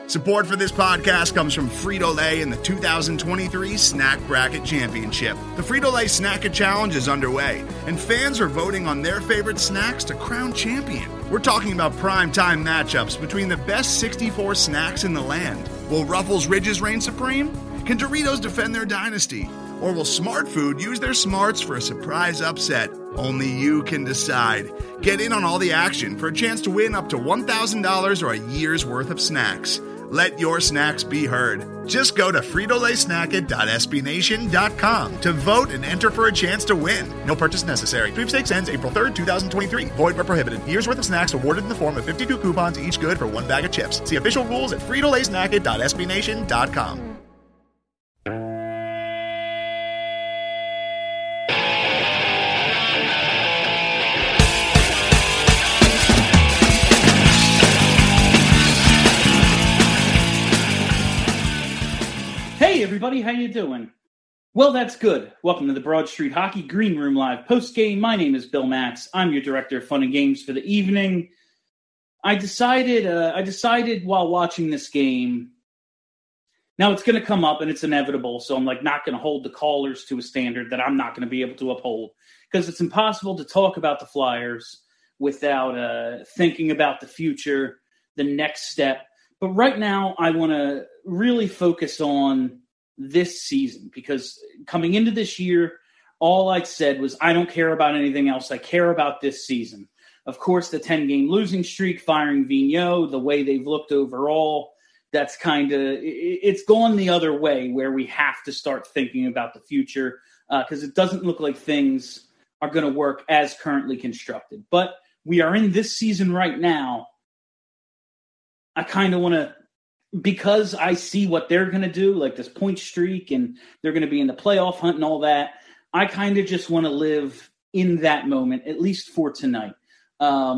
Support for this podcast comes from Frito-Lay and the 2023 Snack Bracket Championship. The Frito-Lay Snack-It Challenge is underway, and fans are voting on their favorite snacks to crown champion. We're talking about prime-time matchups between the best 64 snacks in the land. Will Ruffles Ridges reign supreme? Can Doritos defend their dynasty? Or will Smart Food use their smarts for a surprise upset? Only you can decide. Get in on all the action for a chance to win up to $1,000 or a year's worth of snacks. Let your snacks be heard. Just go to fritolaysnacket.sbnation.com to vote and enter for a chance to win. No purchase necessary. Sweepstakes ends April 3rd, 2023. Void where prohibited. Year's worth of snacks awarded in the form of 52 coupons, each good for one bag of chips. See official rules at fritolaysnacket.sbnation.com. Hey everybody, how you doing? Well, that's good. Welcome to the Broad Street Hockey Green Room Live post-game. My name is Bill Matz. I'm your director of fun and games for the evening. I decided while watching this game, now it's going to come up and it's inevitable, so I'm not going to hold the callers to a standard that I'm not going to be able to uphold, because it's impossible to talk about the Flyers without thinking about the future, the next step. But right now, I want to really focus on this season, because coming into this year, all I said was, I don't care about anything else. I care about this season. Of course, the 10-game losing streak, firing Vigneault, the way they've looked overall, that's it's gone the other way, where we have to start thinking about the future, because it doesn't look like things are going to work as currently constructed. But we are in this season right now. I kind of want to, because I see what they're going to do, like this point streak, and they're going to be in the playoff hunt and all that, I kind of just want to live in that moment, at least for tonight. I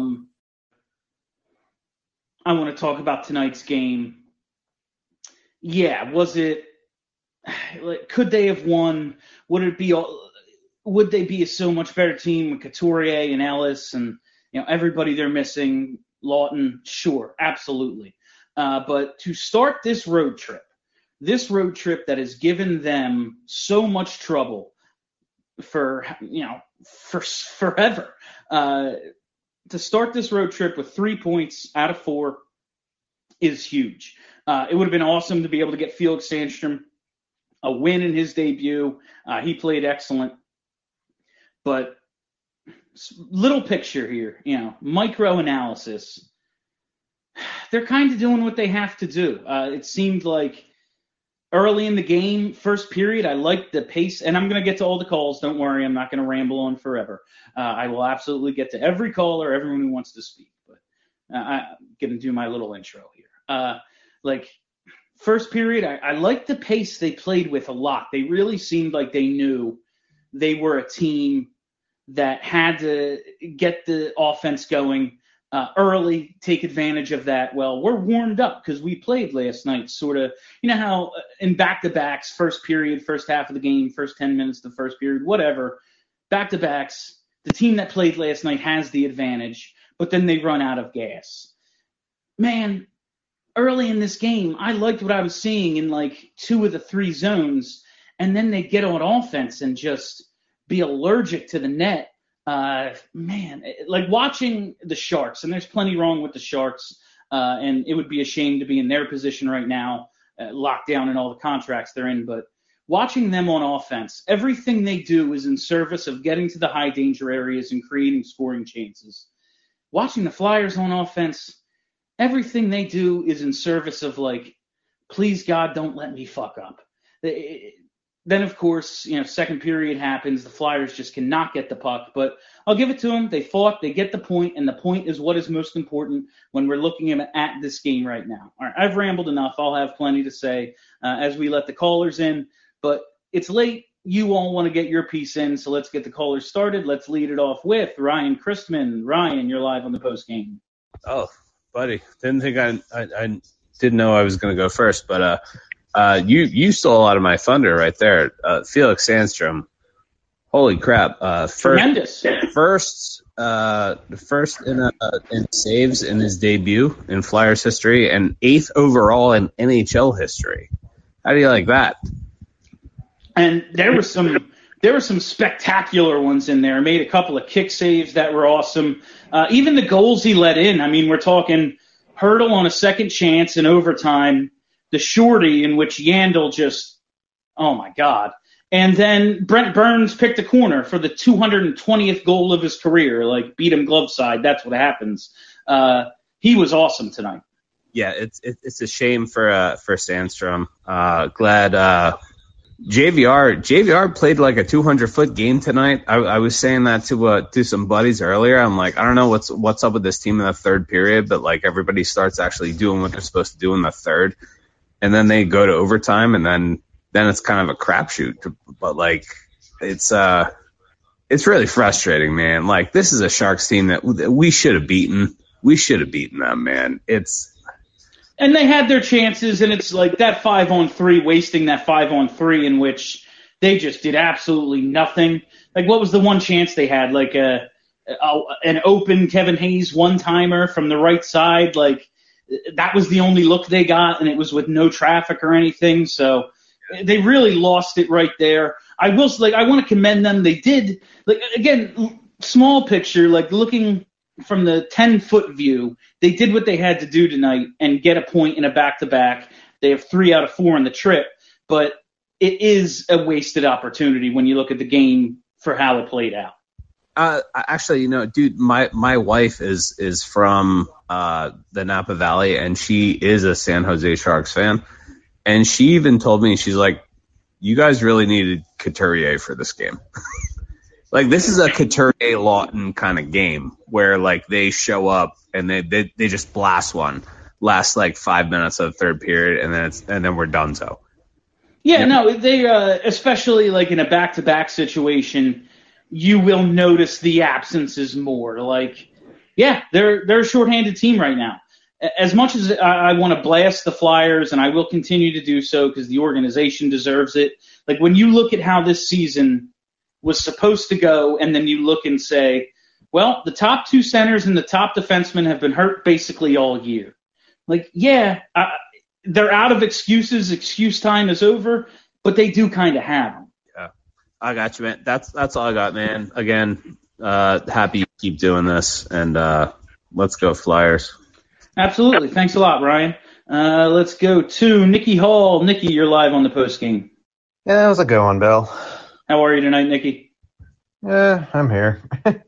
want to talk about tonight's game. Yeah, could they have won? Would they be a so much better team with Couturier and Ellis and everybody they're missing? Lawton, sure, absolutely. But to start this road trip that has given them so much trouble for forever, to start this road trip with 3 points out of 4 is huge. It would have been awesome to be able to get Felix Sandstrom a win in his debut. He played excellent. But little picture here, micro analysis. They're kind of doing what they have to do. It seemed like early in the game, first period, I liked the pace, and I'm going to get to all the calls. Don't worry, I'm not going to ramble on forever. I will absolutely get to every caller, everyone who wants to speak. But I'm going to do my little intro here. First period, I liked the pace they played with a lot. They really seemed like they knew they were a team that had to get the offense going early, take advantage of that. Well, we're warmed up because we played last night, sort of, how in back-to-backs, first period, first half of the game, first 10 minutes of the first period, whatever, back-to-backs, the team that played last night has the advantage, but then they run out of gas. Man, early in this game, I liked what I was seeing in 2 of the 3 zones, and then they get on offense and just be allergic to the net. Watching the Sharks, and there's plenty wrong with the Sharks, and it would be a shame to be in their position right now, locked down in all the contracts they're in, but watching them on offense, everything they do is in service of getting to the high danger areas and creating scoring chances. Watching the Flyers on offense, everything they do is in service of please God, don't let me fuck up. Then, of course, second period happens. The Flyers just cannot get the puck. But I'll give it to them. They fought. They get the point, and the point is what is most important when we're looking at this game right now. All right, I've rambled enough. I'll have plenty to say as we let the callers in. But it's late. You all want to get your piece in, so let's get the callers started. Let's lead it off with Ryan Christman. Ryan, you're live on the post game. Oh, buddy. Didn't think I didn't know I was going to go first, but you stole a lot of my thunder right there. Felix Sandstrom, holy crap! Tremendous. First first in saves in his debut in Flyers history, and 8th overall in NHL history. How do you like that? And there were some spectacular ones in there. Made a couple of kick saves that were awesome. Even the goals he let in. I mean, we're talking Hurdle on a second chance in overtime, the shorty in which Yandel just, oh my God. And then Brent Burns picked a corner for the 220th goal of his career, like beat him glove side. That's what happens. He was awesome tonight. Yeah, it's a shame for Sandstrom. Glad JVR played like a 200-foot game tonight. I was saying that to some buddies earlier. I'm like, I don't know what's up with this team in the third period, but like everybody starts actually doing what they're supposed to do in the third, and then they go to overtime, and then it's kind of a crapshoot. But like it's really frustrating, man. Like this is a Sharks team that we should have beaten. We should have beaten them, man. And they had their chances, and it's like that 5-on-3, wasting that 5-on-3 in which they just did absolutely nothing. Like, what was the one chance they had? Like an open Kevin Hayes one-timer from the right side. Like, that was the only look they got, and it was with no traffic or anything. So they really lost it right there. I want to commend them. They did, like, again, small picture, like looking from the 10-foot view, they did what they had to do tonight and get a point in a back-to-back. They have 3 out of 4 on the trip, but it is a wasted opportunity when you look at the game for how it played out. Actually, dude, my wife is from the Napa Valley, and she is a San Jose Sharks fan. And she even told me, she's like, you guys really needed Couturier for this game. Like, this is a Couturier-Lawton kind of game where, like, they show up and they just blast one. Last, like, 5 minutes of the third period, and then we're done so. Yeah, no, they especially, like, in a back-to-back situation, you will notice the absences more. Like, yeah, they're a shorthanded team right now. As much as I want to blast the Flyers, and I will continue to do so because the organization deserves it, like, when you look at how this season was supposed to go, and then you look and say, well, the top 2 centers and the top defensemen have been hurt basically all year. Like, yeah, they're out of excuses. Excuse time is over, but they do kind of have them. Yeah, I got you, man. That's all I got, man. Again, happy you keep doing this, and let's go Flyers. Absolutely. Thanks a lot, Ryan. Let's go to Nikki Hall. Nikki, you're live on the postgame. Yeah, how's it going, Bill? How are you tonight, Nikki? Yeah, I'm here.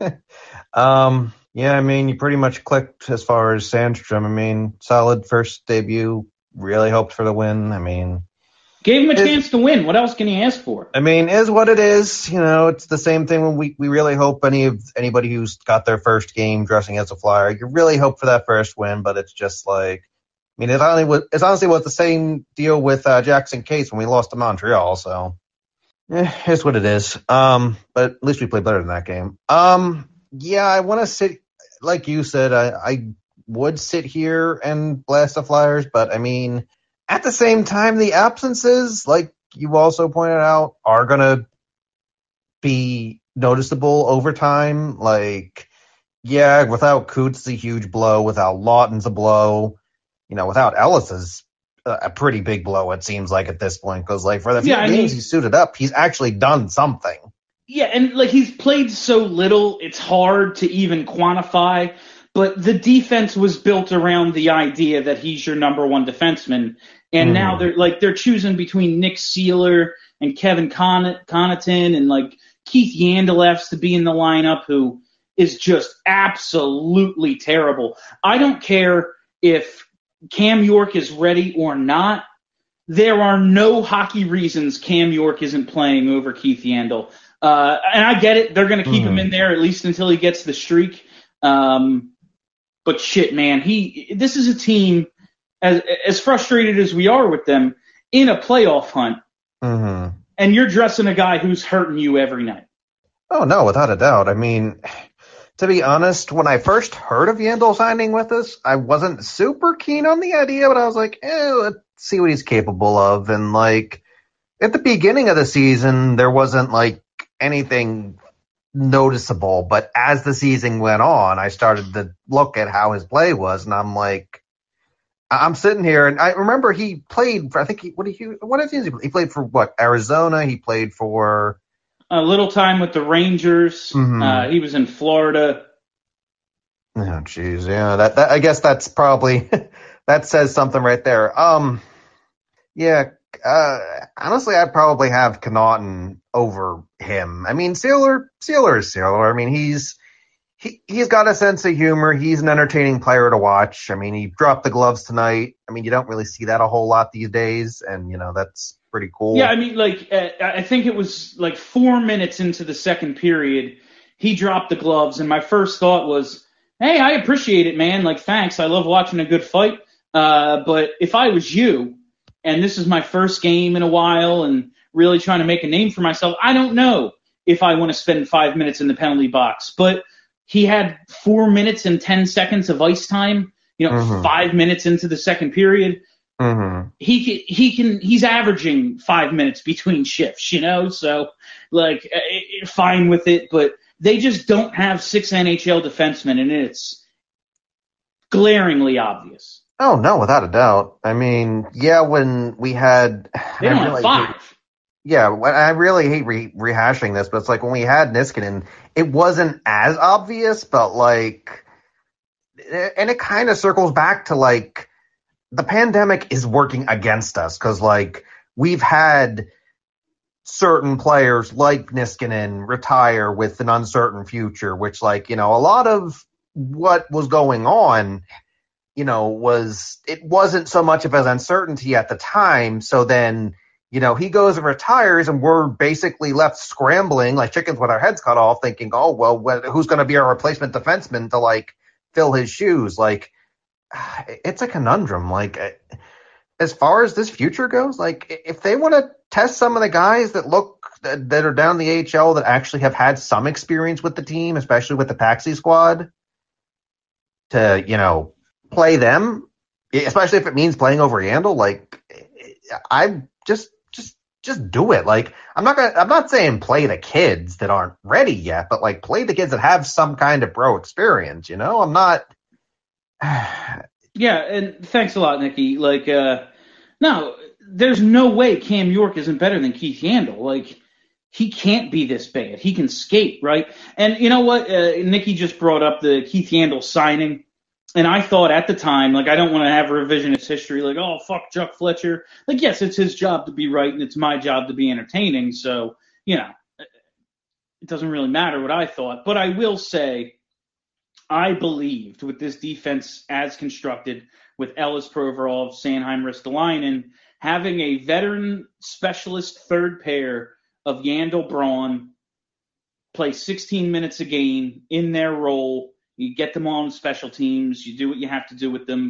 Yeah, I mean, you pretty much clicked as far as Sandstrom. I mean, solid first debut. Really hoped for the win. I mean, gave him a chance to win. What else can he ask for? I mean, is what it is. It's the same thing when we really hope anybody who's got their first game dressing as a Flyer, you really hope for that first win, but it's just like, I mean, it's honestly was the same deal with Jackson Case when we lost to Montreal, so it's what it is. But at least we played better than that game. Yeah, I want to sit, like you said, I would sit here and blast the Flyers, but I mean, at the same time, the absences, like you also pointed out, are going to be noticeable over time. Like, yeah, without Coots, it's a huge blow. Without Lawton's a blow. Without Ellis is a pretty big blow, it seems like, at this point. Because, like, for the few games he's suited up, he's actually done something. Yeah, and, like, he's played so little, it's hard to even quantify. But the defense was built around the idea that he's your number one defenseman. And now they're choosing between Nick Seeler and Kevin Connaughton and, like, Keith Yandelefs to be in the lineup, who is just absolutely terrible. I don't care if Cam York is ready or not. There are no hockey reasons Cam York isn't playing over Keith Yandel. And I get it. They're going to keep him in there at least until he gets the streak. But shit, man, this is a team, as frustrated as we are with them, in a playoff hunt. Mm-hmm. And you're dressing a guy who's hurting you every night. Oh, no, without a doubt. I mean, to be honest, when I first heard of Yandel signing with us, I wasn't super keen on the idea, but I was like, let's see what he's capable of. And, like, at the beginning of the season, there wasn't, like, anything noticeable. But as the season went on, I started to look at how his play was, and I'm like, I'm sitting here, and I remember he played for, I think, what did he played for what? Arizona. He played for a little time with the Rangers. Mm-hmm. He was in Florida. Oh, jeez, yeah. That I guess that's probably that says something right there. Yeah. Honestly, I'd probably have Connaughton over him. I mean, Sealer is Sealer. I mean, he's got a sense of humor. He's an entertaining player to watch. I mean, he dropped the gloves tonight. I mean, you don't really see that a whole lot these days, and that's pretty cool. Yeah, I mean, I think it was 4 minutes into the second period, he dropped the gloves, and my first thought was, hey, I appreciate it, man. Thanks. I love watching a good fight. But if I was you, and this is my first game in a while and really trying to make a name for myself, I don't know if I want to spend 5 minutes in the penalty box. But he had 4 minutes and 10 seconds of ice time, 5 minutes into the second period. Mm-hmm. He's averaging 5 minutes between shifts, so fine with it. But they just don't have 6 NHL defensemen, and it's glaringly obvious. Oh, no, without a doubt. I mean, yeah, when we had... They don't have 5. I really hate rehashing this, but it's like when we had Niskanen, it wasn't as obvious, but and it kind of circles back to the pandemic is working against us because we've had certain players like Niskanen retire with an uncertain future, which a lot of what was going on, it wasn't so much of an uncertainty at the time. So then, he goes and retires and we're basically left scrambling like chickens with our heads cut off thinking, oh, well, who's going to be our replacement defenseman to fill his shoes? It's a conundrum. As far as this future goes, if they want to test some of the guys that are down the AHL that actually have had some experience with the team, especially with the Paxi squad, to, play them, especially if it means playing over Yandle, I just do it. I'm not saying play the kids that aren't ready yet, but play the kids that have some kind of pro experience, I'm not. Yeah, and thanks a lot, Nikki. No, there's no way Cam York isn't better than Keith Yandle. He can't be this bad. He can skate, right? And you know what? Nikki just brought up the Keith Yandle signing. And I thought at the time, I don't want to have revisionist history, oh, fuck Chuck Fletcher. Yes, it's his job to be right, and it's my job to be entertaining. So, it doesn't really matter what I thought. But I will say, I believed with this defense as constructed, with Ellis, Provorov, Sanheim, Ristolainen, having a veteran specialist third pair of Yandle, Braun, play 16 minutes a game in their role. You get them on special teams. You do what you have to do with them.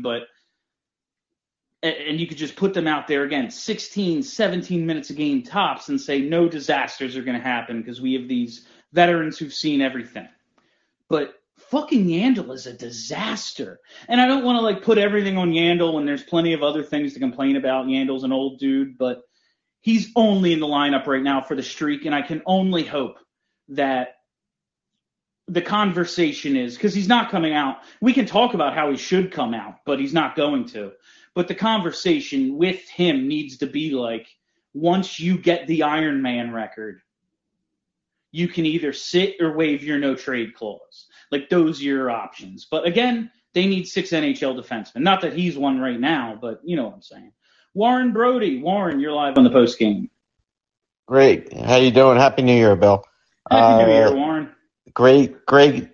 And you could just put them out there again, 16, 17 minutes a game tops and say no disasters are going to happen because we have these veterans who've seen everything. But fucking Yandle is a disaster. And I don't want to put everything on Yandle when there's plenty of other things to complain about. Yandle's an old dude, but he's only in the lineup right now for the streak. And I can only hope that the conversation is, because he's not coming out. We can talk about how he should come out, but he's not going to. But the conversation with him needs to be once you get the Iron Man record, you can either sit or waive your no trade clause. Those are your options. But again, they need 6 NHL defensemen. Not that he's one right now, but you know what I'm saying. Warren Brody. Warren, you're live on the post game. Great. How you doing? Happy New Year, Bill. Happy New Year, Warren. Great game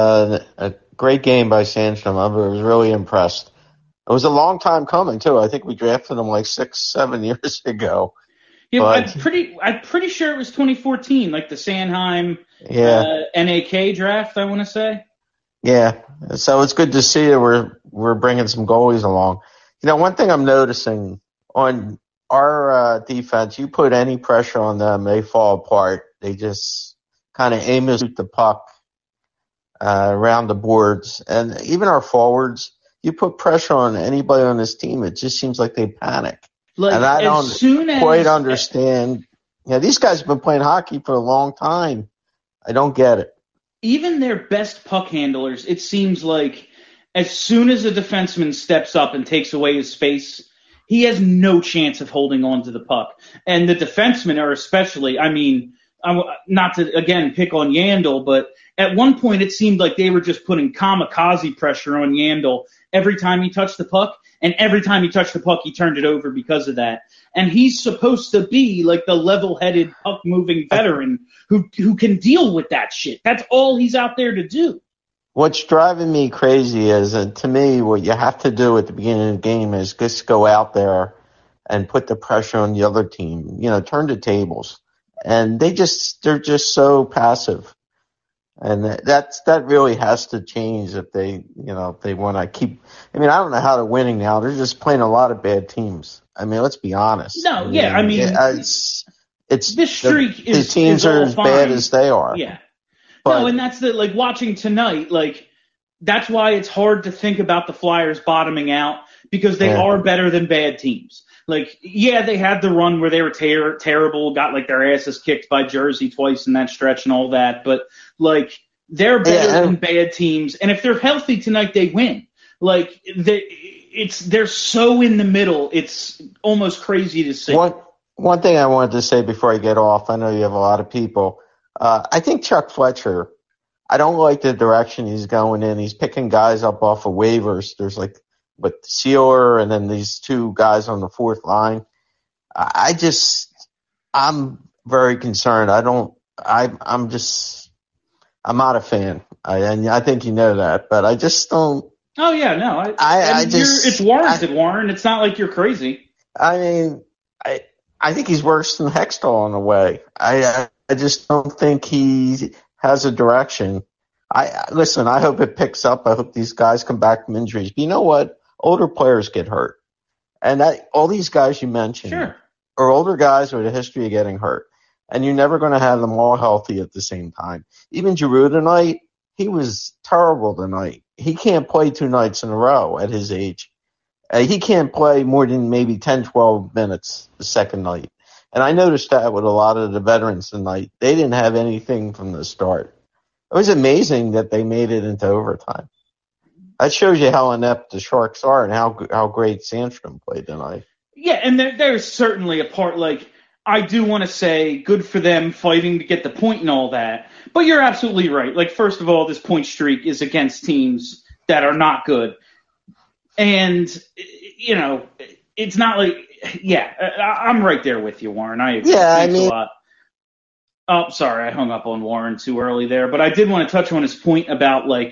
by Sandstrom. I was really impressed. It was a long time coming too. I think we drafted him 6-7 years ago. Yeah, but I'm pretty sure it was 2014, the Sanheim NAK draft, I want to say. Yeah, so it's good to see that we're bringing some goalies along. One thing I'm noticing on our defense, you put any pressure on them, they fall apart. They just kind of aim to shoot the puck around the boards. And even our forwards, you put pressure on anybody on this team, it just seems like they panic. And I don't quite understand. These guys have been playing hockey for a long time. I don't get it. Even their best puck handlers, it seems like as soon as a defenseman steps up and takes away his space, he has no chance of holding on to the puck. And the defensemen are especially, I mean, not to, again, pick on Yandel, but at one point it seemed like they were just putting kamikaze pressure on Yandel every time he touched the puck, and every time he touched the puck, he turned it over because of that. And he's supposed to be like the level-headed, puck-moving veteran who can deal with that shit. That's all he's out there to do. What's driving me crazy is, to me, what you have to do at the beginning of the game is just go out there and put the pressure on the other team. You know, turn the tables. And they're just so passive. And that really has to change if they want to keep. I mean, I don't know how they're winning now. They're just playing a lot of bad teams. I mean, let's be honest. No, yeah, I mean, it's this streak the teams are as bad as they are. Yeah. But, no, and that's like watching tonight, like that's why it's hard to think about the Flyers bottoming out, because they are better than bad teams. Like, yeah, they had the run where they were terrible, got like their asses kicked by Jersey twice in that stretch and all that, but like they're better than bad teams, and if they're healthy tonight, they win. Like they're so in the middle, it's almost crazy to see. One thing I wanted to say before I get off, I know you have a lot of people. I think Chuck Fletcher, I don't like the direction he's going in. He's picking guys up off of waivers. There's like Sealer and then these two guys on the fourth line. I'm very concerned. I'm not a fan. And I think you know that, but I just don't. Oh yeah, no. It's warranted, Warren. It's not like you're crazy. I mean, I think he's worse than Hextall in a way. I just don't think he has a direction. Listen, I hope it picks up. I hope these guys come back from injuries. But you know what? Older players get hurt. And all these guys you mentioned are older guys with a history of getting hurt. And you're never going to have them all healthy at the same time. Even Giroux tonight, he was terrible tonight. He can't play 2 nights in a row at his age. He can't play more than maybe 10, 12 minutes the second night. And I noticed that with a lot of the veterans tonight. They didn't have anything from the start. It was amazing that they made it into overtime. That shows you how inept the Sharks are and how great Sandstrom played tonight. Yeah, and there's certainly a part, like, I do want to say good for them fighting to get the point and all that. But you're absolutely right. Like, first of all, this point streak is against teams that are not good. And, you know, it's not like, I'm right there with you, Warren. I agree. Yeah, Thanks a lot. Oh, sorry, I hung up on Warren too early there. But I did want to touch on his point about, like,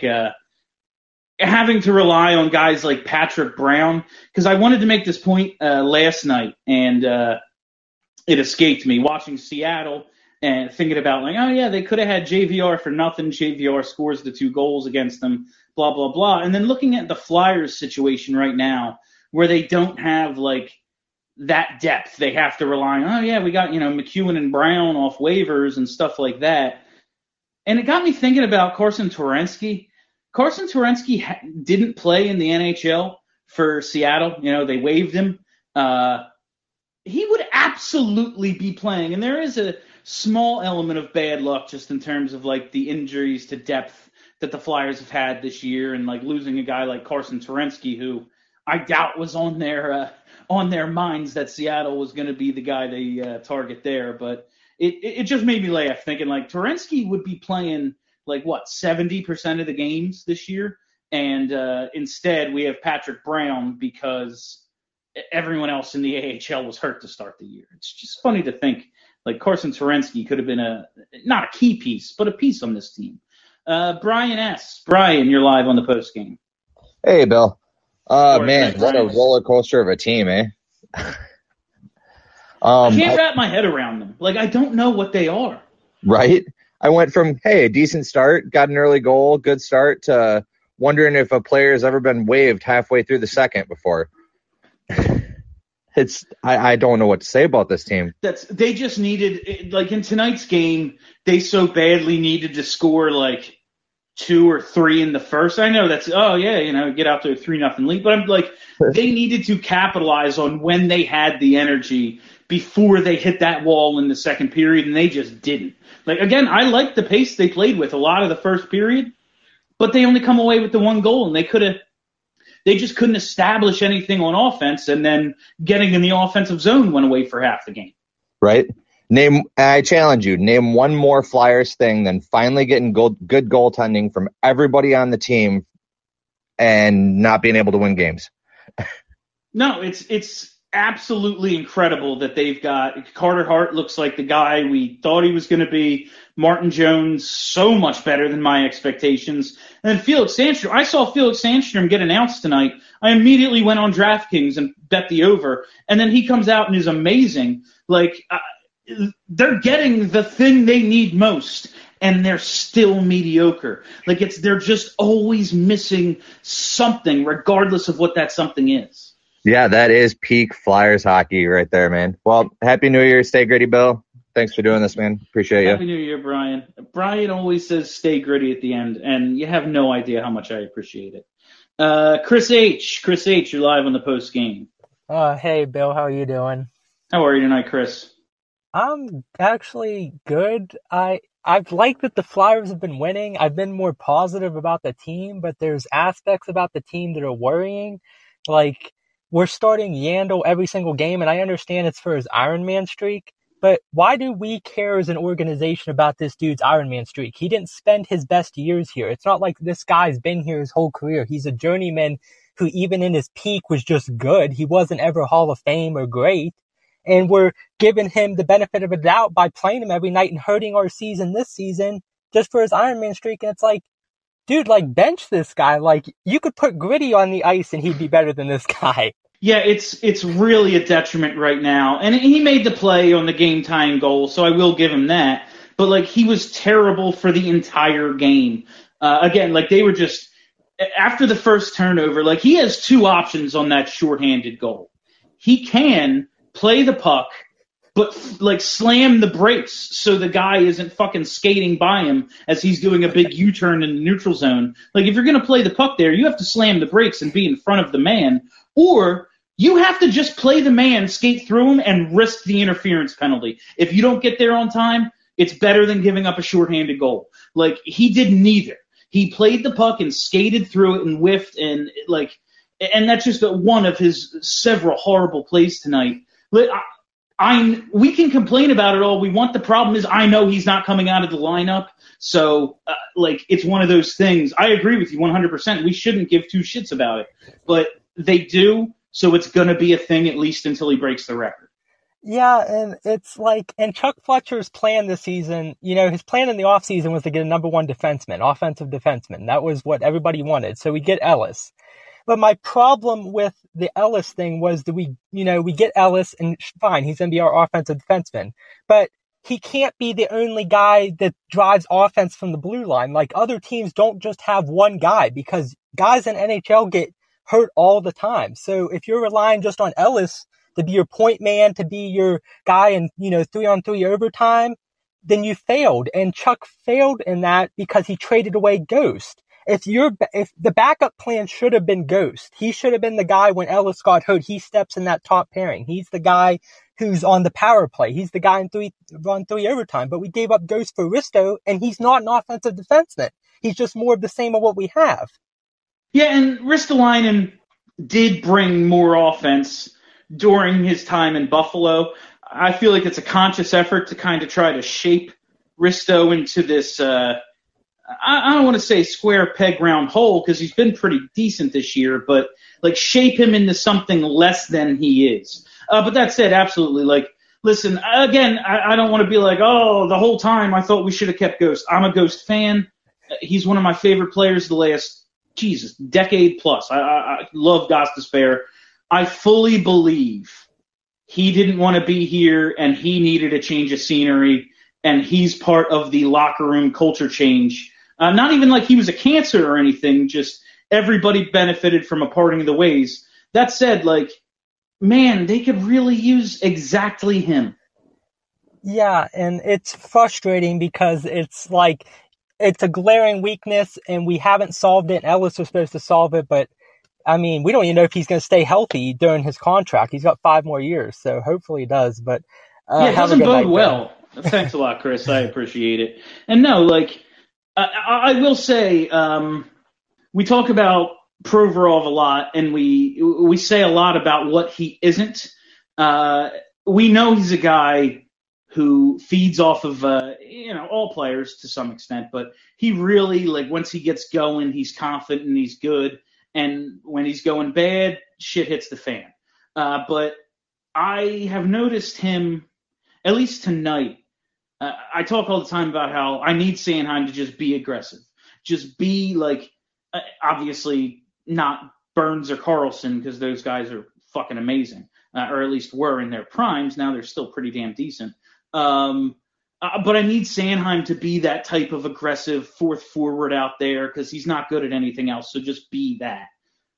having to rely on guys like Patrick Brown, because I wanted to make this point last night, and it escaped me watching Seattle and thinking about, like, oh, yeah, they could have had JVR for nothing. JVR scores the 2 goals against them, blah, blah, blah. And then looking at the Flyers situation right now, where they don't have, like, that depth. They have to rely on, oh, yeah, we got, McEwen and Brown off waivers and stuff like that. And it got me thinking about Carson Twarynski. Carson Twarynski didn't play in the NHL for Seattle. They waived him. He would absolutely be playing. And there is a small element of bad luck just in terms of, like, the injuries to depth that the Flyers have had this year, and, like, losing a guy like Carson Twarynski, who I doubt was on their minds that Seattle was going to be the guy they target there. But it just made me laugh, thinking, like, Twarynski would be playing, like, 70% of the games this year, and instead we have Patrick Brown because everyone else in the AHL was hurt to start the year. It's just funny to think, like, Carson Twarynski could have been not a key piece, but a piece on this team. Brian S. Brian, you're live on the post game. Hey, Bill. Man, what a roller coaster of a team, eh? I can't wrap my head around them. Like, I don't know what they are. Right? I went from, hey, a decent start, got an early goal, good start, to wondering if a player has ever been waived halfway through the second before. I don't know what to say about this team. They just needed, like, in tonight's game, they so badly needed to score, like, 2 or 3 in the first. I know that's, get out to a 3-0 lead. But I'm like, they needed to capitalize on when they had the energy before they hit that wall in the second period, and they just didn't. Like, again, I like the pace they played with a lot of the first period, but they only come away with the 1 goal, and they just couldn't establish anything on offense, and then getting in the offensive zone went away for half the game. Right? I challenge you, name one more Flyers thing than finally getting good goaltending from everybody on the team and not being able to win games. No, it's absolutely incredible that they've got Carter Hart looks like the guy we thought he was going to be. Martin Jones, so much better than my expectations. And then Felix Sandstrom. I saw Felix Sandstrom get announced tonight. I immediately went on DraftKings and bet the over. And then he comes out and is amazing. Like, they're getting the thing they need most, and they're still mediocre. Like, they're just always missing something, regardless of what that something is. Yeah, that is peak Flyers hockey right there, man. Well, Happy New Year. Stay gritty, Bill. Thanks for doing this, man. Appreciate you. Happy New Year, Brian. Brian always says stay gritty at the end, and you have no idea how much I appreciate it. Chris H., you're live on the post game. Hey, Bill. How are you doing? How are you tonight, Chris? I'm actually good. I've liked that the Flyers have been winning. I've been more positive about the team, but there's aspects about the team that are worrying. Like, we're starting Yandel every single game, and I understand it's for his Ironman streak, but why do we care as an organization about this dude's Ironman streak? He didn't spend his best years here. It's not like this guy's been here his whole career. He's a journeyman who even in his peak was just good. He wasn't ever Hall of Fame or great. And we're giving him the benefit of a doubt by playing him every night and hurting our season this season just for his Ironman streak. And it's like, dude, like, bench this guy. Like, you could put Gritty on the ice and he'd be better than this guy. Yeah, it's really a detriment right now. And he made the play on the game-tying goal, so I will give him that. But, like, he was terrible for the entire game. Again, like, they were just – after the first turnover, like, he has 2 options on that shorthanded goal. He can – play the puck, but like slam the brakes so the guy isn't fucking skating by him as he's doing a big U-turn in the neutral zone. Like, if you're going to play the puck there, you have to slam the brakes and be in front of the man, or you have to just play the man, skate through him, and risk the interference penalty. If you don't get there on time, it's better than giving up a shorthanded goal. Like, he did neither. He played the puck and skated through it and whiffed, and that's just one of his several horrible plays tonight. We can complain about it all we want. The problem is I know he's not coming out of the lineup. So, it's one of those things. I agree with you 100%. We shouldn't give 2 shits about it. But they do, so it's going to be a thing at least until he breaks the record. Yeah, and it's like, and Chuck Fletcher's plan this season, his plan in the offseason was to get a number 1 defenseman, offensive defenseman. That was what everybody wanted. So we get Ellis. But my problem with the Ellis thing was that we get Ellis and fine, he's going to be our offensive defenseman. But he can't be the only guy that drives offense from the blue line. Like, other teams don't just have one guy because guys in NHL get hurt all the time. So if you're relying just on Ellis to be your point man, to be your guy in, 3-on-3 overtime, then you failed. And Chuck failed in that because he traded away Ghost. If the backup plan should have been Ghost, he should have been the guy when Ellis got hurt. He steps in that top pairing. He's the guy who's on the power play. He's the guy in 3-on-3 overtime. But we gave up Ghost for Risto, and he's not an offensive defenseman. He's just more of the same of what we have. Yeah, and Ristolainen did bring more offense during his time in Buffalo. I feel like it's a conscious effort to kind of try to shape Risto into this I don't want to say square peg round hole because he's been pretty decent this year, but like shape him into something less than he is. But that said, absolutely. Like, listen, again, I don't want to be like, oh, the whole time I thought we should have kept Ghost. I'm a Ghost fan. He's one of my favorite players the last, decade plus. I love Gostisbehere. I fully believe he didn't want to be here and he needed a change of scenery, and he's part of the locker room culture change. Not even like he was a cancer or anything, just everybody benefited from a parting of the ways. That said, like, man, they could really use exactly him. Yeah, and it's frustrating because it's like it's a glaring weakness, and we haven't solved it. Ellis was supposed to solve it, but I mean, we don't even know if he's going to stay healthy during his contract. He's got 5 more years, so hopefully he does. But it doesn't bode well. Thanks a lot, Chris. I appreciate it. And no, like I will say, we talk about Provorov a lot, and we say a lot about what he isn't. We know he's a guy who feeds off of all players to some extent, but he really, like, once he gets going, he's confident and he's good. And when he's going bad, shit hits the fan. But I have noticed him, at least tonight. I talk all the time about how I need Sanheim to just be aggressive, just be like, obviously not Burns or Carlson, because those guys are fucking amazing, or at least were in their primes. Now they're still pretty damn decent. But I need Sanheim to be that type of aggressive fourth forward out there, because he's not good at anything else. So just be that.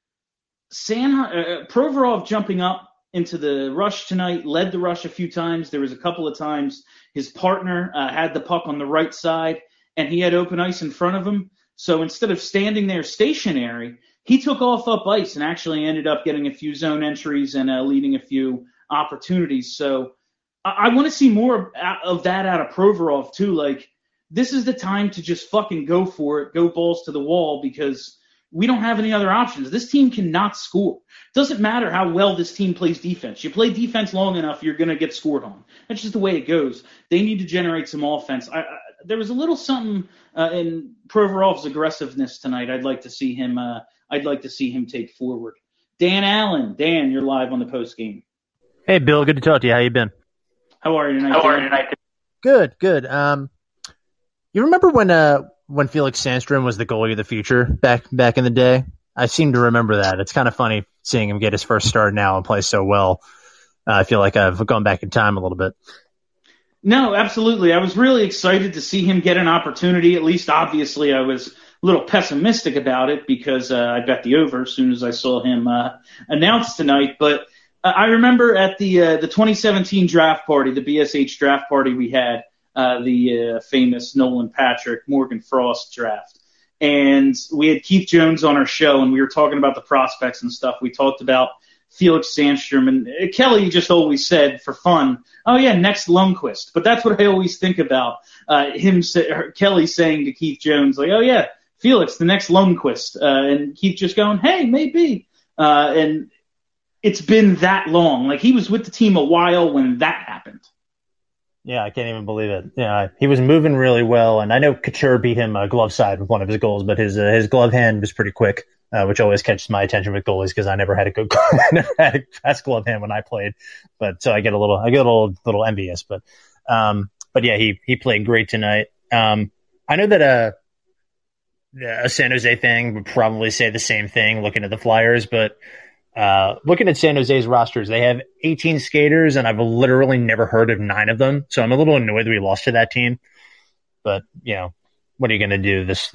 Provorov jumping up into the rush tonight, led the rush a few times. There was a couple of times his partner had the puck on the right side, and he had open ice in front of him. So instead of standing there stationary, he took off up ice and actually ended up getting a few zone entries and leading a few opportunities. So I want to see more of that out of Provorov too. Like, this is the time to just fucking go for it, go balls to the wall, because we don't have any other options. This team cannot score. Doesn't matter how well this team plays defense. You play defense long enough, you're going to get scored on. That's just the way it goes. They need to generate some offense. There was a little something in Provorov's aggressiveness tonight. I'd like to see him. I'd like to see him take forward. Dan Allen, Dan, you're live on the post game. Hey, Bill. Good to talk to you. How you been? How are you tonight? Good. You remember when Felix Sandstrom was the goalie of the future back in the day? I seem to remember that. It's kind of funny seeing him get his first start now and play so well. I feel like I've gone back in time a little bit. No, absolutely. I was really excited to see him get an opportunity. At least, obviously, I was a little pessimistic about it because I bet the over as soon as I saw him announced tonight. But I remember at the 2017 draft party, the BSH draft party we had, the famous Nolan Patrick, Morgan Frost draft. And we had Keith Jones on our show, and we were talking about the prospects and stuff. We talked about Felix Sandstrom, and Kelly just always said for fun, "Oh yeah, next Lundqvist." But that's what I always think about Kelly saying to Keith Jones, like, "Oh yeah, Felix, the next Lundqvist," and Keith just going, "Hey, maybe." And it's been that long. Like, he was with the team a while when that happened. Yeah, I can't even believe it. Yeah, he was moving really well, and I know Couture beat him glove side with one of his goals, but his glove hand was pretty quick, which always catches my attention with goalies because I never had a good never had a fast glove hand when I played. But so I get a little envious. But yeah, he played great tonight. I know that a San Jose thing would probably say the same thing looking at the Flyers, but looking at San Jose's rosters, they have 18 skaters, and I've literally never heard of 9 of them. So I'm a little annoyed that we lost to that team. But, what are you going to do? It's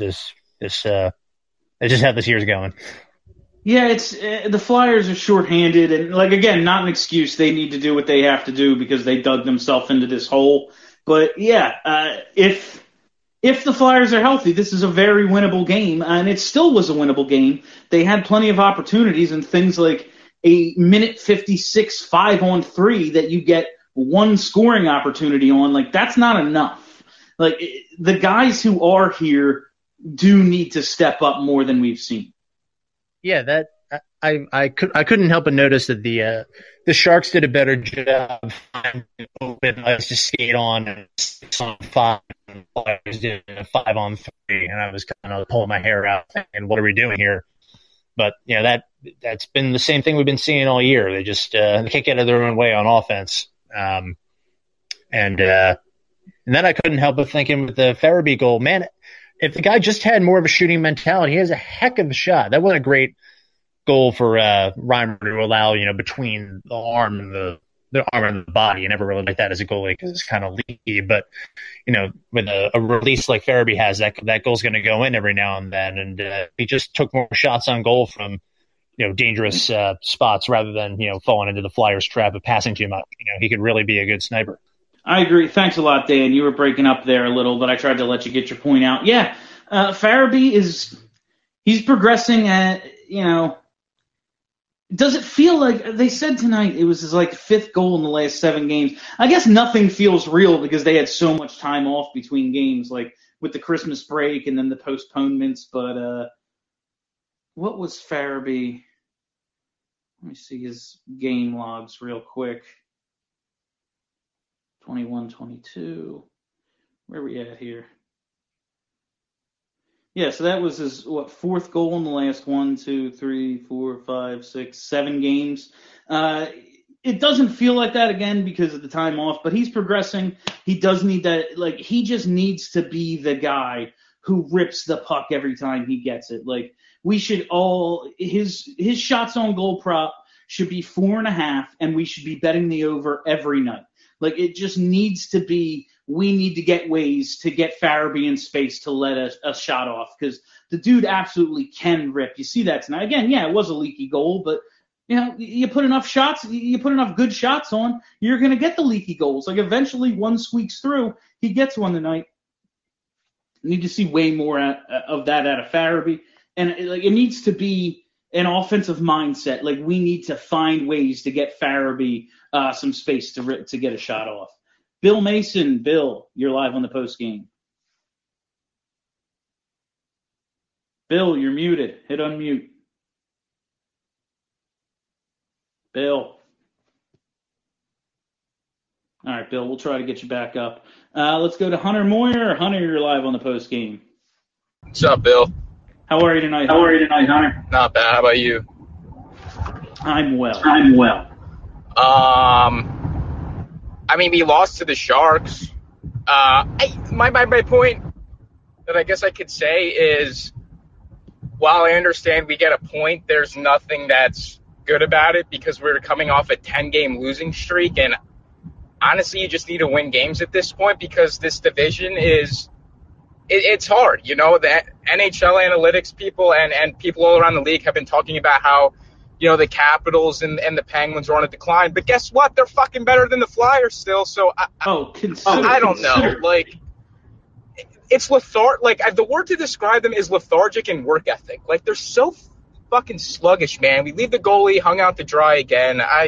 just how this year's going. Yeah, it's the Flyers are shorthanded, and again, not an excuse. They need to do what they have to do because they dug themselves into this hole. But yeah, if the Flyers are healthy, this is a very winnable game, and it still was a winnable game. They had plenty of opportunities and things like a minute 56 5-on-3 that you get one scoring opportunity on. That's not enough. The guys who are here do need to step up more than we've seen. Yeah, that I couldn't help but notice that the Sharks did a better job finding open ice to skate on and 6 on 5, and the Flyers did a 5-on-3, and I was kind of pulling my hair out and what are we doing here? But that's been the same thing we've been seeing all year. They just they can't get out of their own way on offense, and then I couldn't help but thinking with the Farabee goal, man, if the guy just had more of a shooting mentality, he has a heck of a shot. That wasn't a great goal for Reimer to allow, between the arm and the arm and the body. You never really like that as a goalie because it's kind of leaky. But, with a release like Farabee has, that goal's going to go in every now and then. And he just took more shots on goal from, dangerous spots rather than, falling into the Flyers' trap of passing too much. He could really be a good sniper. I agree. Thanks a lot, Dan. You were breaking up there a little, but I tried to let you get your point out. Yeah, Farabee he's progressing at, does it feel like, they said tonight it was his like 5th goal in the last 7 games. I guess nothing feels real because they had so much time off between games, like with the Christmas break and then the postponements. But what was Farabee? Let me see his game logs real quick. 21-22. Where are we at here? Yeah, so that was his 4th goal in the last 1, 2, 3, 4, 5, 6, 7 games. It doesn't feel like that again because of the time off, but he's progressing. He does need that. Like, he just needs to be the guy who rips the puck every time he gets it. Like, we should all his shots on goal prop should be 4.5, and we should be betting the over every night. Like, it just needs to be, we need to get ways to get Farabee in space to let a shot off, because the dude absolutely can rip. You see that tonight. Again, yeah, it was a leaky goal, but you put enough shots, you put enough good shots on, you're going to get the leaky goals. Like, eventually one squeaks through. He gets one tonight. Need to see way more of that out of Farabee. And it needs to be an offensive mindset. Like, we need to find ways to get Farabee some space to get a shot off. Bill Mason, Bill, you're live on the post game. Bill, you're muted. Hit unmute. Bill. All right, Bill, we'll try to get you back up. Let's go to Hunter Moyer. Hunter, you're live on the post game. What's up, Bill? How are you tonight, Hunter? Not bad. How about you? I'm well. I mean, we lost to the Sharks. My point that I guess I could say is, while I understand we get a point, there's nothing that's good about it because we're coming off a 10-game losing streak, and honestly, you just need to win games at this point because this division it's hard. The NHL analytics people and people all around the league have been talking about how, the Capitals and the Penguins are on a decline. But guess what? They're fucking better than the Flyers still. So I don't know. Like, it's lethargic. Like, the word to describe them is lethargic and work ethic. Like, they're so fucking sluggish, man. We leave the goalie hung out to dry again. I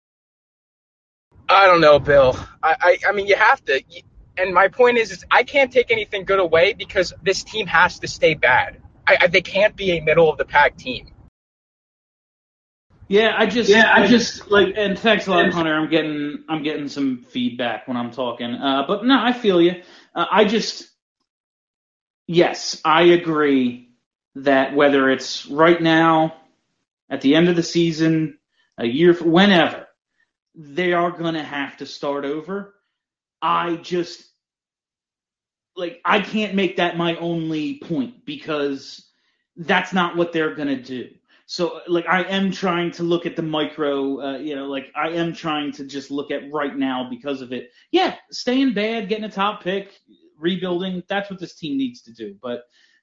don't know, Bill. I mean, you have to. And my point is I can't take anything good away because this team has to stay bad. They can't be a middle of the pack team. Yeah, I just like, and thanks a lot, Hunter. I'm getting some feedback when I'm talking. But no, I feel you. Yes, I agree that whether it's right now, at the end of the season, a year, whenever, they are going to have to start over. I can't make that my only point because that's not what they're going to do. So, I am trying to look at the micro, I am trying to just look at right now because of it. Yeah, staying bad, getting a top pick, rebuilding, that's what this team needs to do. But,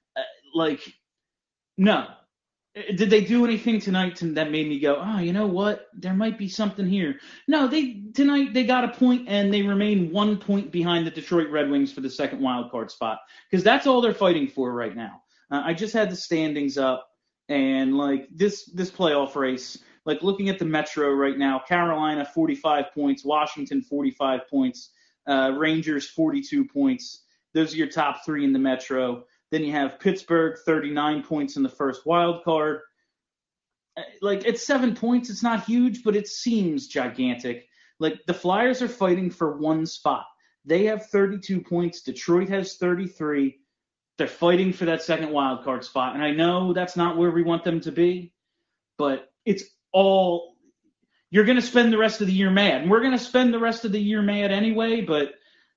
no. Did they do anything tonight that made me go, oh, you know what? There might be something here. No, tonight they got a point and they remain 1 point behind the Detroit Red Wings for the second wild card spot because that's all they're fighting for right now. I just had the standings up. And this playoff race, looking at the Metro right now, Carolina 45 points, Washington 45 points, Rangers 42 points. Those are your top 3 in the Metro. Then you have Pittsburgh 39 points in the first wild card. It's 7 points. It's not huge, but it seems gigantic. The Flyers are fighting for one spot. They have 32 points. Detroit has 33. They're fighting for that second wild card spot. And I know that's not where we want them to be, but it's all – you're going to spend the rest of the year mad. And we're going to spend the rest of the year mad anyway, but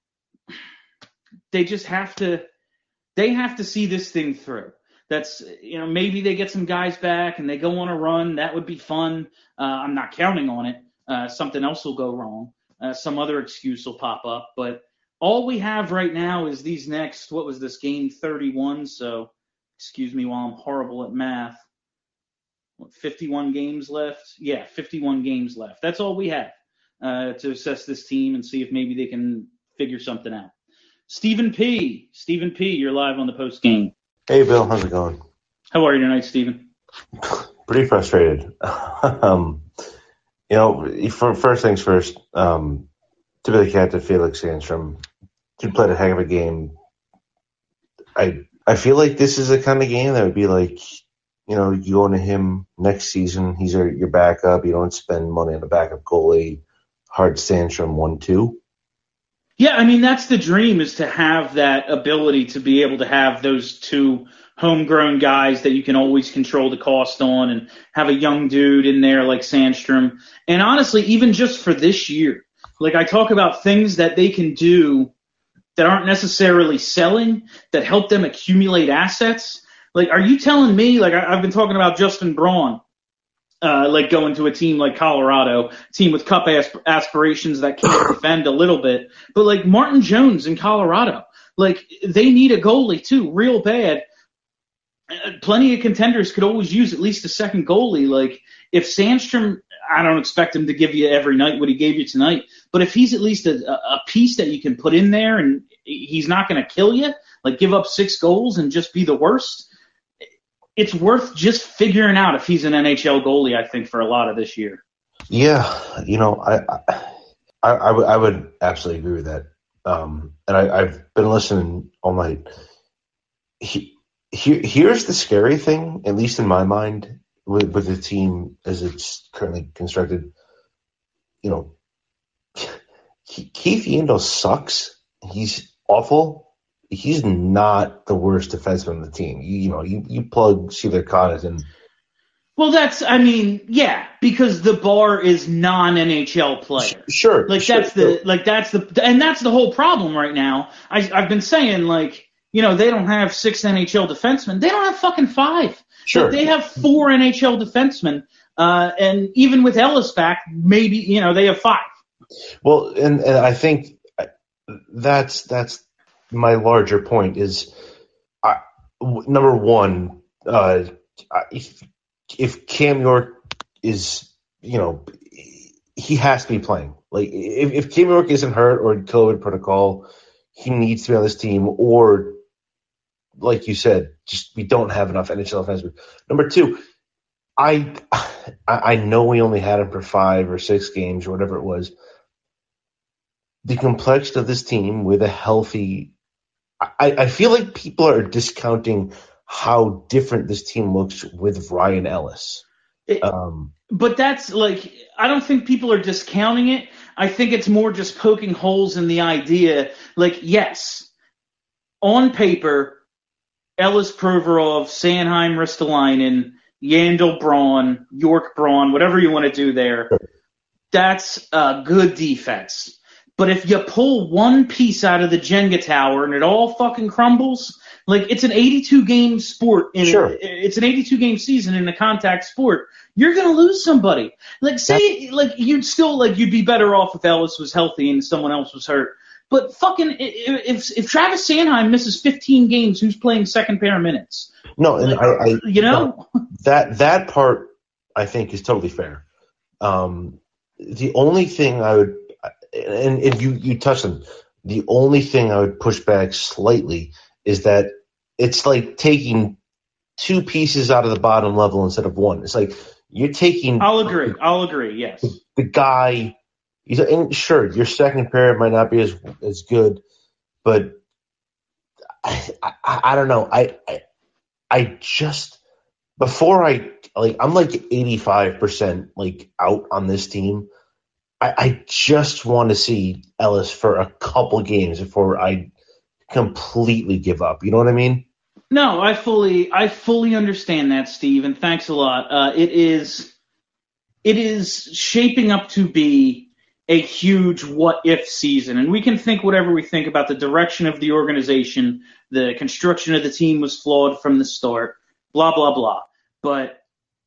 they just have to – they have to see this thing through. That's – maybe they get some guys back and they go on a run. That would be fun. I'm not counting on it. Something else will go wrong. Some other excuse will pop up, but – all we have right now is these next, what was this, game 31? So, excuse me while I'm horrible at math. 51 games left? Yeah, 51 games left. That's all we have. to assess this team and see if maybe they can figure something out. Stephen P., you're live on the post game. Hey, Bill, how's it going? How are you tonight, Stephen? Pretty frustrated. First things first, to be the captain, Felix Sandstrom, he played a heck of a game. I feel like this is the kind of game that would be like, you go into him next season, he's your backup, you don't spend money on a backup goalie, hard Sandstrom 1-2. Yeah, I mean, that's the dream, is to have that ability to be able to have those two homegrown guys that you can always control the cost on and have a young dude in there like Sandstrom. And honestly, even just for this year, like I talk about things that they can do that aren't necessarily selling, that help them accumulate assets. Like, are you telling me, like I've been talking about Justin Braun, like going to a team like Colorado, a team with cup aspirations that can't defend a little bit. But like Martin Jones in Colorado, like they need a goalie too, real bad. Plenty of contenders could always use at least a second goalie. Like if Sandstrom, I don't expect him to give you every night what he gave you tonight, but if he's at least a piece that you can put in there and he's not going to kill you, like give up 6 goals and just be the worst, it's worth just figuring out if he's an NHL goalie, I think, for a lot of this year. Yeah, I would absolutely agree with that. And I've been listening all night. Here's the scary thing, at least in my mind, with the team as it's currently constructed. Keith Yandle sucks. He's awful. He's not the worst defenseman on the team. You plug Sheila Connaughton. Well, because the bar is non-NHL player. Sure. That's the whole problem right now. I've been saying, they don't have 6 NHL defensemen. They don't have fucking 5. Sure. They have 4 NHL defensemen. And even with Ellis back, maybe, they have 5. Well, and I think that's my larger point is, number one, if Cam York is, he has to be playing. Like if Cam York isn't hurt or COVID protocol, he needs to be on this team. Or, like you said, just we don't have enough NHL defensemen. Number two, I know we only had him for 5 or 6 games or whatever it was. The complexion of this team with a healthy, I feel like people are discounting how different this team looks with Ryan Ellis. But that's I don't think people are discounting it. I think it's more just poking holes in the idea. Yes, on paper, Ellis, Provorov, Sanheim, Ristolainen, Yandle, Braun, York, Braun, whatever you want to do there, that's a good defense. But if you pull one piece out of the Jenga tower and it all fucking crumbles, it's an 82-game sport. It's an 82-game season in a contact sport. You're going to lose somebody. You'd be better off if Ellis was healthy and someone else was hurt. But fucking, if Travis Sanheim misses 15 games, who's playing second pair minutes? No, and that part I think is totally fair. The only thing I would, and you touched on, the only thing I would push back slightly is that it's like taking 2 pieces out of the bottom level instead of 1. It's like you're taking. I'll agree. Yes. The guy. And sure, your second pair might not be as good, but I don't know. I just before I'm 85% out on this team. I just want to see Ellis for a couple games before I completely give up. You know what I mean? No, I fully understand that, Steve, and thanks a lot. It is shaping up to be a huge what-if season, and we can think whatever we think about the direction of the organization. The construction of the team was flawed from the start, blah, blah, blah. But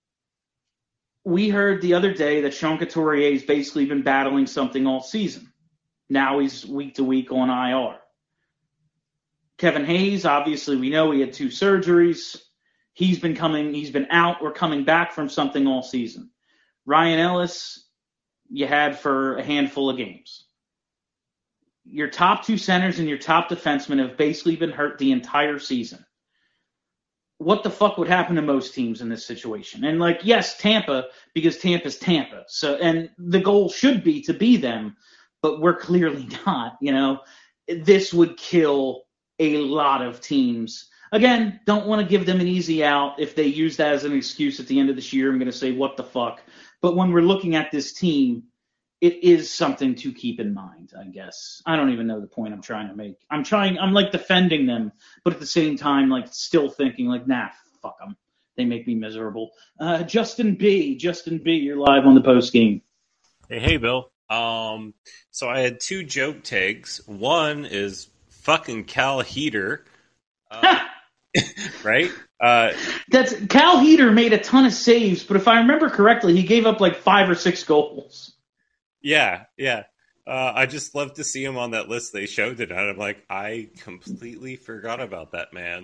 we heard the other day that Sean Couturier's basically been battling something all season. Now he's week to week on IR. Kevin Hayes, obviously we know he had 2 surgeries. He's been out or coming back from something all season. Ryan Ellis, you had for a handful of games. Your top two centers and your top defensemen have basically been hurt the entire season. What the fuck would happen to most teams in this situation? And like, yes, Tampa, because Tampa's Tampa. So, and the goal should be to be them, but we're clearly not, you know. This would kill a lot of teams. Again, don't want to give them an easy out. If they use that as an excuse at the end of this year, I'm going to say, what the fuck? But when we're looking at this team, it is something to keep in mind, I guess. I don't even know the point I'm trying to make. I'm like defending them, but at the same time, like still thinking like, nah, fuck them. They make me miserable. Justin B, you're live on the post game. Hey, Bill. So I had two joke takes. One is fucking Cal Heater. Right? That's Cal Heater made a ton of saves, but if I remember correctly, he gave up like 5 or 6 goals. Yeah. I just love to see him on that list they showed tonight. I'm like, I completely forgot about that man.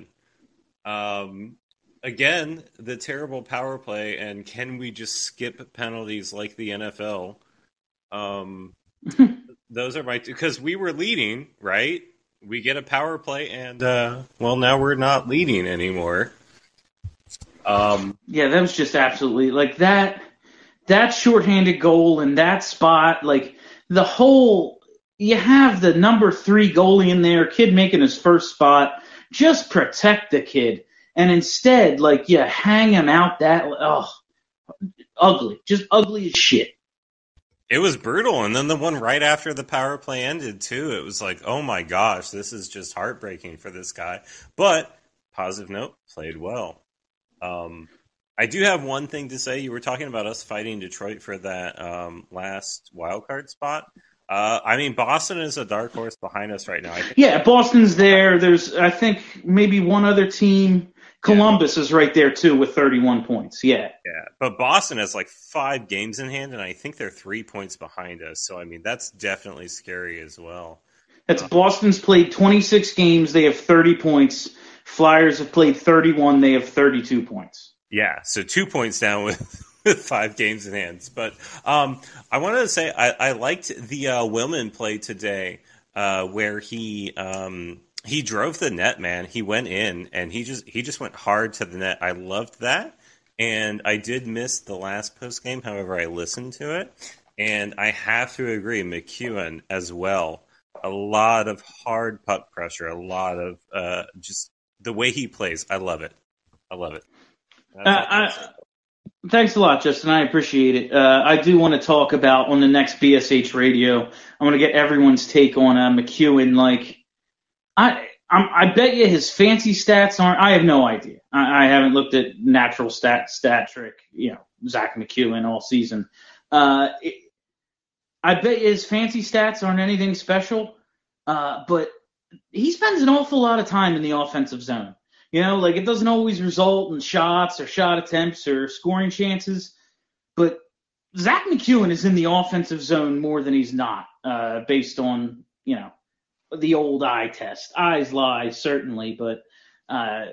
Again, the terrible power play, and can we just skip penalties like the NFL? Those are my two, because we were leading, right? We get a power play, and now we're not leading anymore. Yeah, that was just absolutely like that shorthanded goal in that spot, like the whole. You have the number 3 goalie in there, kid making his first spot. Just protect the kid, and instead, like, you hang him out. Ugly, just ugly as shit. It was brutal, and then the one right after the power play ended, too. It was like, oh my gosh, this is just heartbreaking for this guy. But, positive note, played well. I do have one thing to say. You were talking about us fighting Detroit for that last wildcard spot. Boston is a dark horse behind us right now. Yeah, Boston's there. There's, I think, maybe one other team. Columbus is right there, too, with 31 points. Yeah, but Boston has like 5 games in hand, and I think they're 3 points behind us. So, that's definitely scary as well. Boston's played 26 games. They have 30 points. Flyers have played 31. They have 32 points. Yeah, so 2 points down with 5 games in hand. But I wanted to say I liked the Willman play today where he drove the net, man. He went in, and he just went hard to the net. I loved that. And I did miss the last post game. However, I listened to it. And I have to agree, McEwen as well. A lot of hard puck pressure. A lot of just the way he plays. I love it. Thanks a lot, Justin. I appreciate it. I do want to talk about on the next BSH radio. I'm going to get everyone's take on McEwen. Like, I bet you his fancy stats aren't. I have no idea. I haven't looked at natural stat trick. Zach McEwen all season. I bet you his fancy stats aren't anything special. But he spends an awful lot of time in the offensive zone. It doesn't always result in shots or shot attempts or scoring chances, but Zach McEwen is in the offensive zone more than he's not, based on, the old eye test. Eyes lie, certainly, but I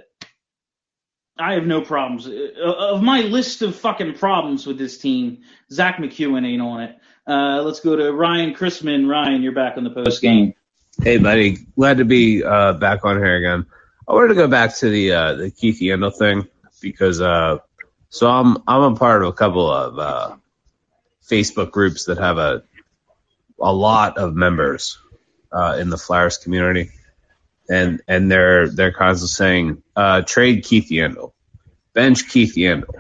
have no problems. Of my list of fucking problems with this team, Zach McEwen ain't on it. Let's go to Ryan Chrisman. Ryan, you're back on the post game. Hey, buddy. Glad to be back on here again. I wanted to go back to the Keith Yandle thing because so I'm a part of a couple of Facebook groups that have a lot of members in the Flyers community, and they're constantly saying trade Keith Yandle, bench Keith Yandle,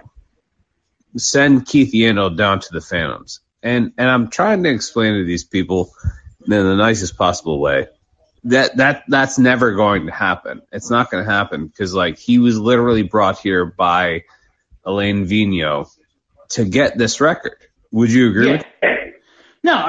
send Keith Yandle down to the Phantoms, and I'm trying to explain to these people in the nicest possible way. That's never going to happen. It's not going to happen because, he was literally brought here by Alain Vigneault to get this record. Would you agree with that? No,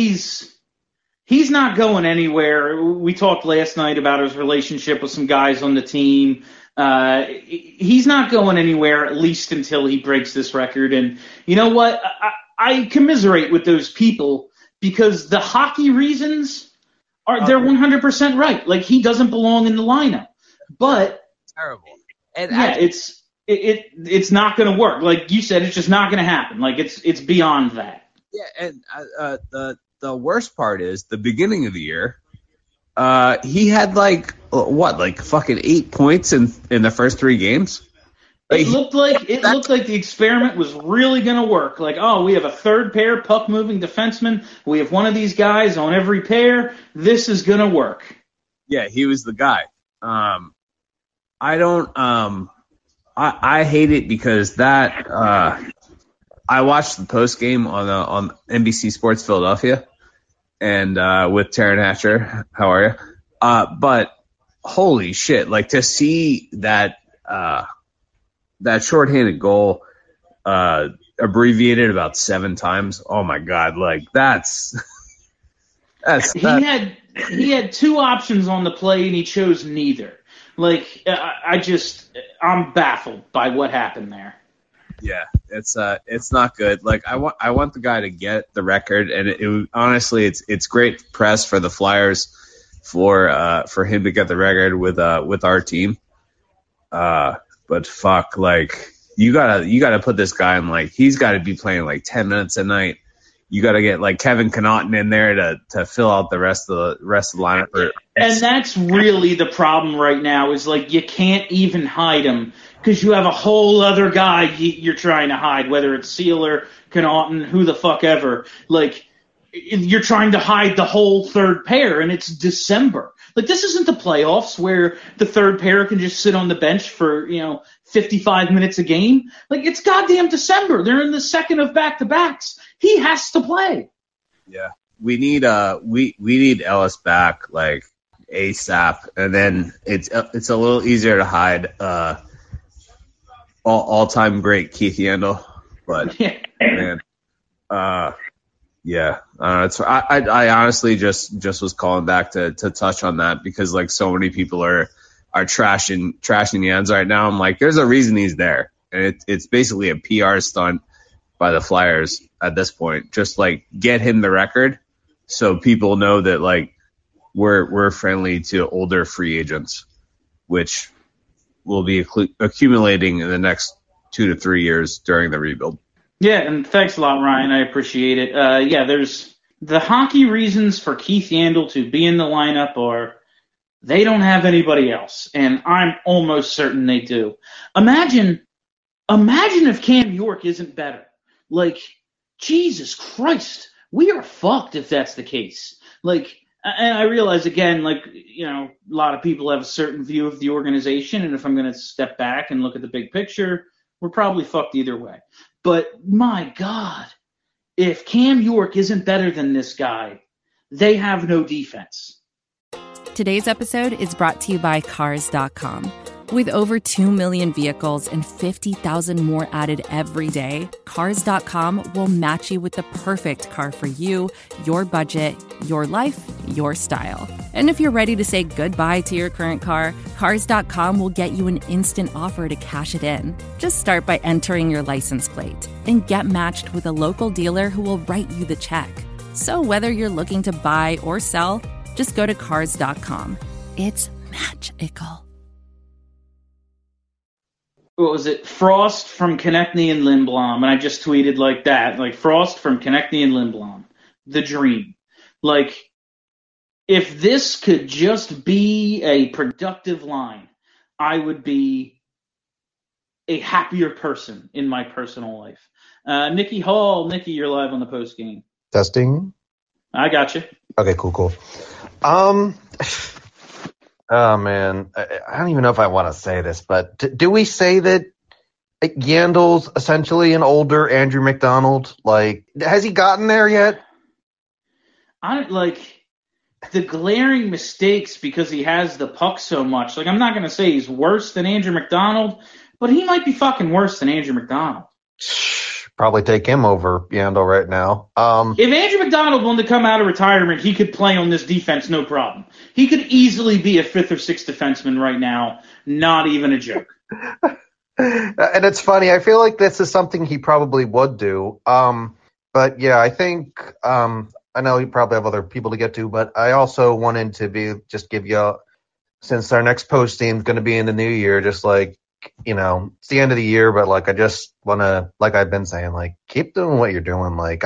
he's not going anywhere. We talked last night about his relationship with some guys on the team. He's not going anywhere, at least until he breaks this record. And you know what? I commiserate with those people because the hockey reasons they're 100% right. He doesn't belong in the lineup. But terrible. And it's not going to work. Like you said, it's just not going to happen. It's beyond that. Yeah, and the worst part is the beginning of the year. He had like fucking 8 points in the first 3 games. It looked like the experiment was really going to work. Like, oh, we have a third pair puck-moving defenseman. We have one of these guys on every pair. This is going to work. Yeah, he was the guy. I hate it because that I watched the post game on NBC Sports Philadelphia and with Taryn Hatcher. How are you? But holy shit! Like to see that shorthanded goal abbreviated about 7 times. Oh my god! Like he had 2 options on the play and he chose neither. Like I'm baffled by what happened there. Yeah, it's not good. Like I want the guy to get the record, and honestly, it's great press for the Flyers for him to get the record with our team. But fuck, like you gotta put this guy in, like he's got to be playing like 10 minutes a night. You got to get like Kevin Connaughton in there to fill out the rest of the lineup. And that's really the problem right now is like you can't even hide him because you have a whole other guy you're trying to hide, whether it's Sealer, Connaughton, who the fuck ever. Like you're trying to hide the whole third pair, and it's December. Like this isn't the playoffs where the third pair can just sit on the bench for 55 minutes a game. Like it's goddamn December. They're in the second of back-to-backs. He has to play. Yeah, we need Ellis back like ASAP, and then it's a little easier to hide all-time great Keith Yandle. But man, yeah, I honestly just was calling back to touch on that because like so many people are trashing Yans right now. I'm like, there's a reason he's there, and it's basically a PR stunt by the Flyers at this point. Just like get him the record so people know that like we're friendly to older free agents, which will be accumulating in the next 2 to 3 years during the rebuild. Yeah, and thanks a lot, Ryan. I appreciate it. There's the hockey reasons for Keith Yandle to be in the lineup are they don't have anybody else, and I'm almost certain they do. Imagine if Cam York isn't better. Like, Jesus Christ, we are fucked if that's the case. Like, and I realize, again, like, a lot of people have a certain view of the organization, and if I'm going to step back and look at the big picture, we're probably fucked either way. But, my God, if Cam York isn't better than this guy, they have no defense. Today's episode is brought to you by Cars.com. With over 2 million vehicles and 50,000 more added every day, Cars.com will match you with the perfect car for you, your budget, your life, your style. And if you're ready to say goodbye to your current car, Cars.com will get you an instant offer to cash it in. Just start by entering your license plate and get matched with a local dealer who will write you the check. So whether you're looking to buy or sell, just go to Cars.com. It's magical. What was it? Frost from Konechny and Lindblom. And I just tweeted like that. Like, Frost from Konechny and Lindblom. The dream. Like, if this could just be a productive line, I would be a happier person in my personal life. Nikki Hall. Nikki, you're live on the post game. Testing. I got you. Okay, cool. Oh, man. I don't even know if I want to say this, but do we say that Yandle's essentially an older Andrew McDonald? Like, has he gotten there yet? The glaring mistakes because he has the puck so much. Like, I'm not going to say he's worse than Andrew McDonald, but he might be fucking worse than Andrew McDonald. Probably take him over Yandle right now. If Andrew McDonald wanted to come out of retirement, he could play on this defense, no problem. He could easily be a 5th or 6th defenseman right now. Not even a joke. And it's funny. I feel like this is something he probably would do. But yeah, I think I know you probably have other people to get to, but I also wanted to give you, since our next post team is going to be in the new year, just like, it's the end of the year, but like I just want to, like I've been saying, like keep doing what you're doing. Like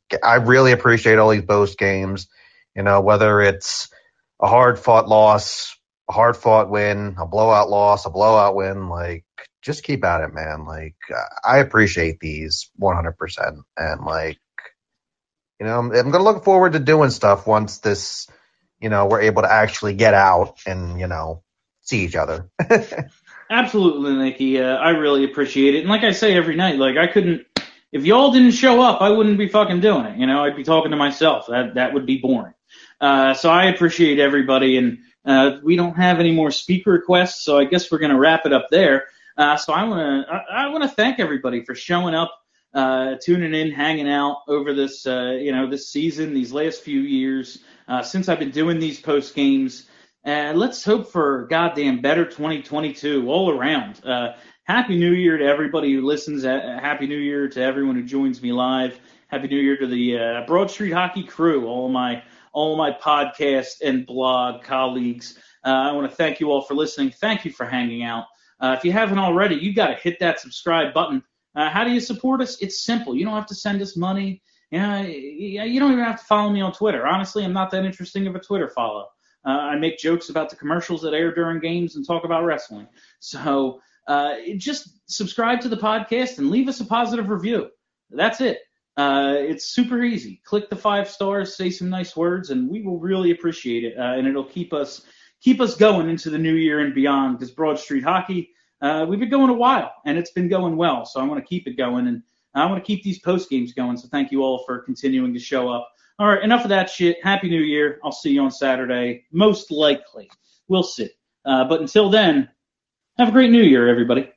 I really appreciate all these post games. Whether it's a hard fought loss, a hard fought win, a blowout loss, a blowout win, like, just keep at it, man. Like, I appreciate these 100%. And like, I'm going to look forward to doing stuff once this, we're able to actually get out and, see each other. Absolutely, Nikki. I really appreciate it. And like I say every night, like, if y'all didn't show up, I wouldn't be fucking doing it. I'd be talking to myself. That would be boring. So I appreciate everybody. And we don't have any more speaker requests, so I guess we're going to wrap it up there. So I want to thank everybody for showing up, tuning in, hanging out over this, this season, these last few years, since I've been doing these post games. Let's hope for goddamn better 2022 all around. Happy New Year to everybody who listens. Happy New Year to everyone who joins me live. Happy New Year to the Broad Street Hockey crew, all my podcast and blog colleagues. I want to thank you all for listening. Thank you for hanging out. If you haven't already, you got to hit that subscribe button. How do you support us? It's simple. You don't have to send us money. You don't even have to follow me on Twitter. Honestly, I'm not that interesting of a Twitter follow. I make jokes about the commercials that air during games and talk about wrestling. So just subscribe to the podcast and leave us a positive review. That's it. It's super easy. Click the 5 stars, say some nice words, and we will really appreciate it. And it'll keep us going into the new year and beyond, because Broad Street Hockey, we've been going a while, and it's been going well. So I want to keep it going, and I want to keep these post games going. So thank you all for continuing to show up. All right, enough of that shit. Happy New Year. I'll see you on Saturday, most likely. We'll see. But until then, have a great New Year, everybody.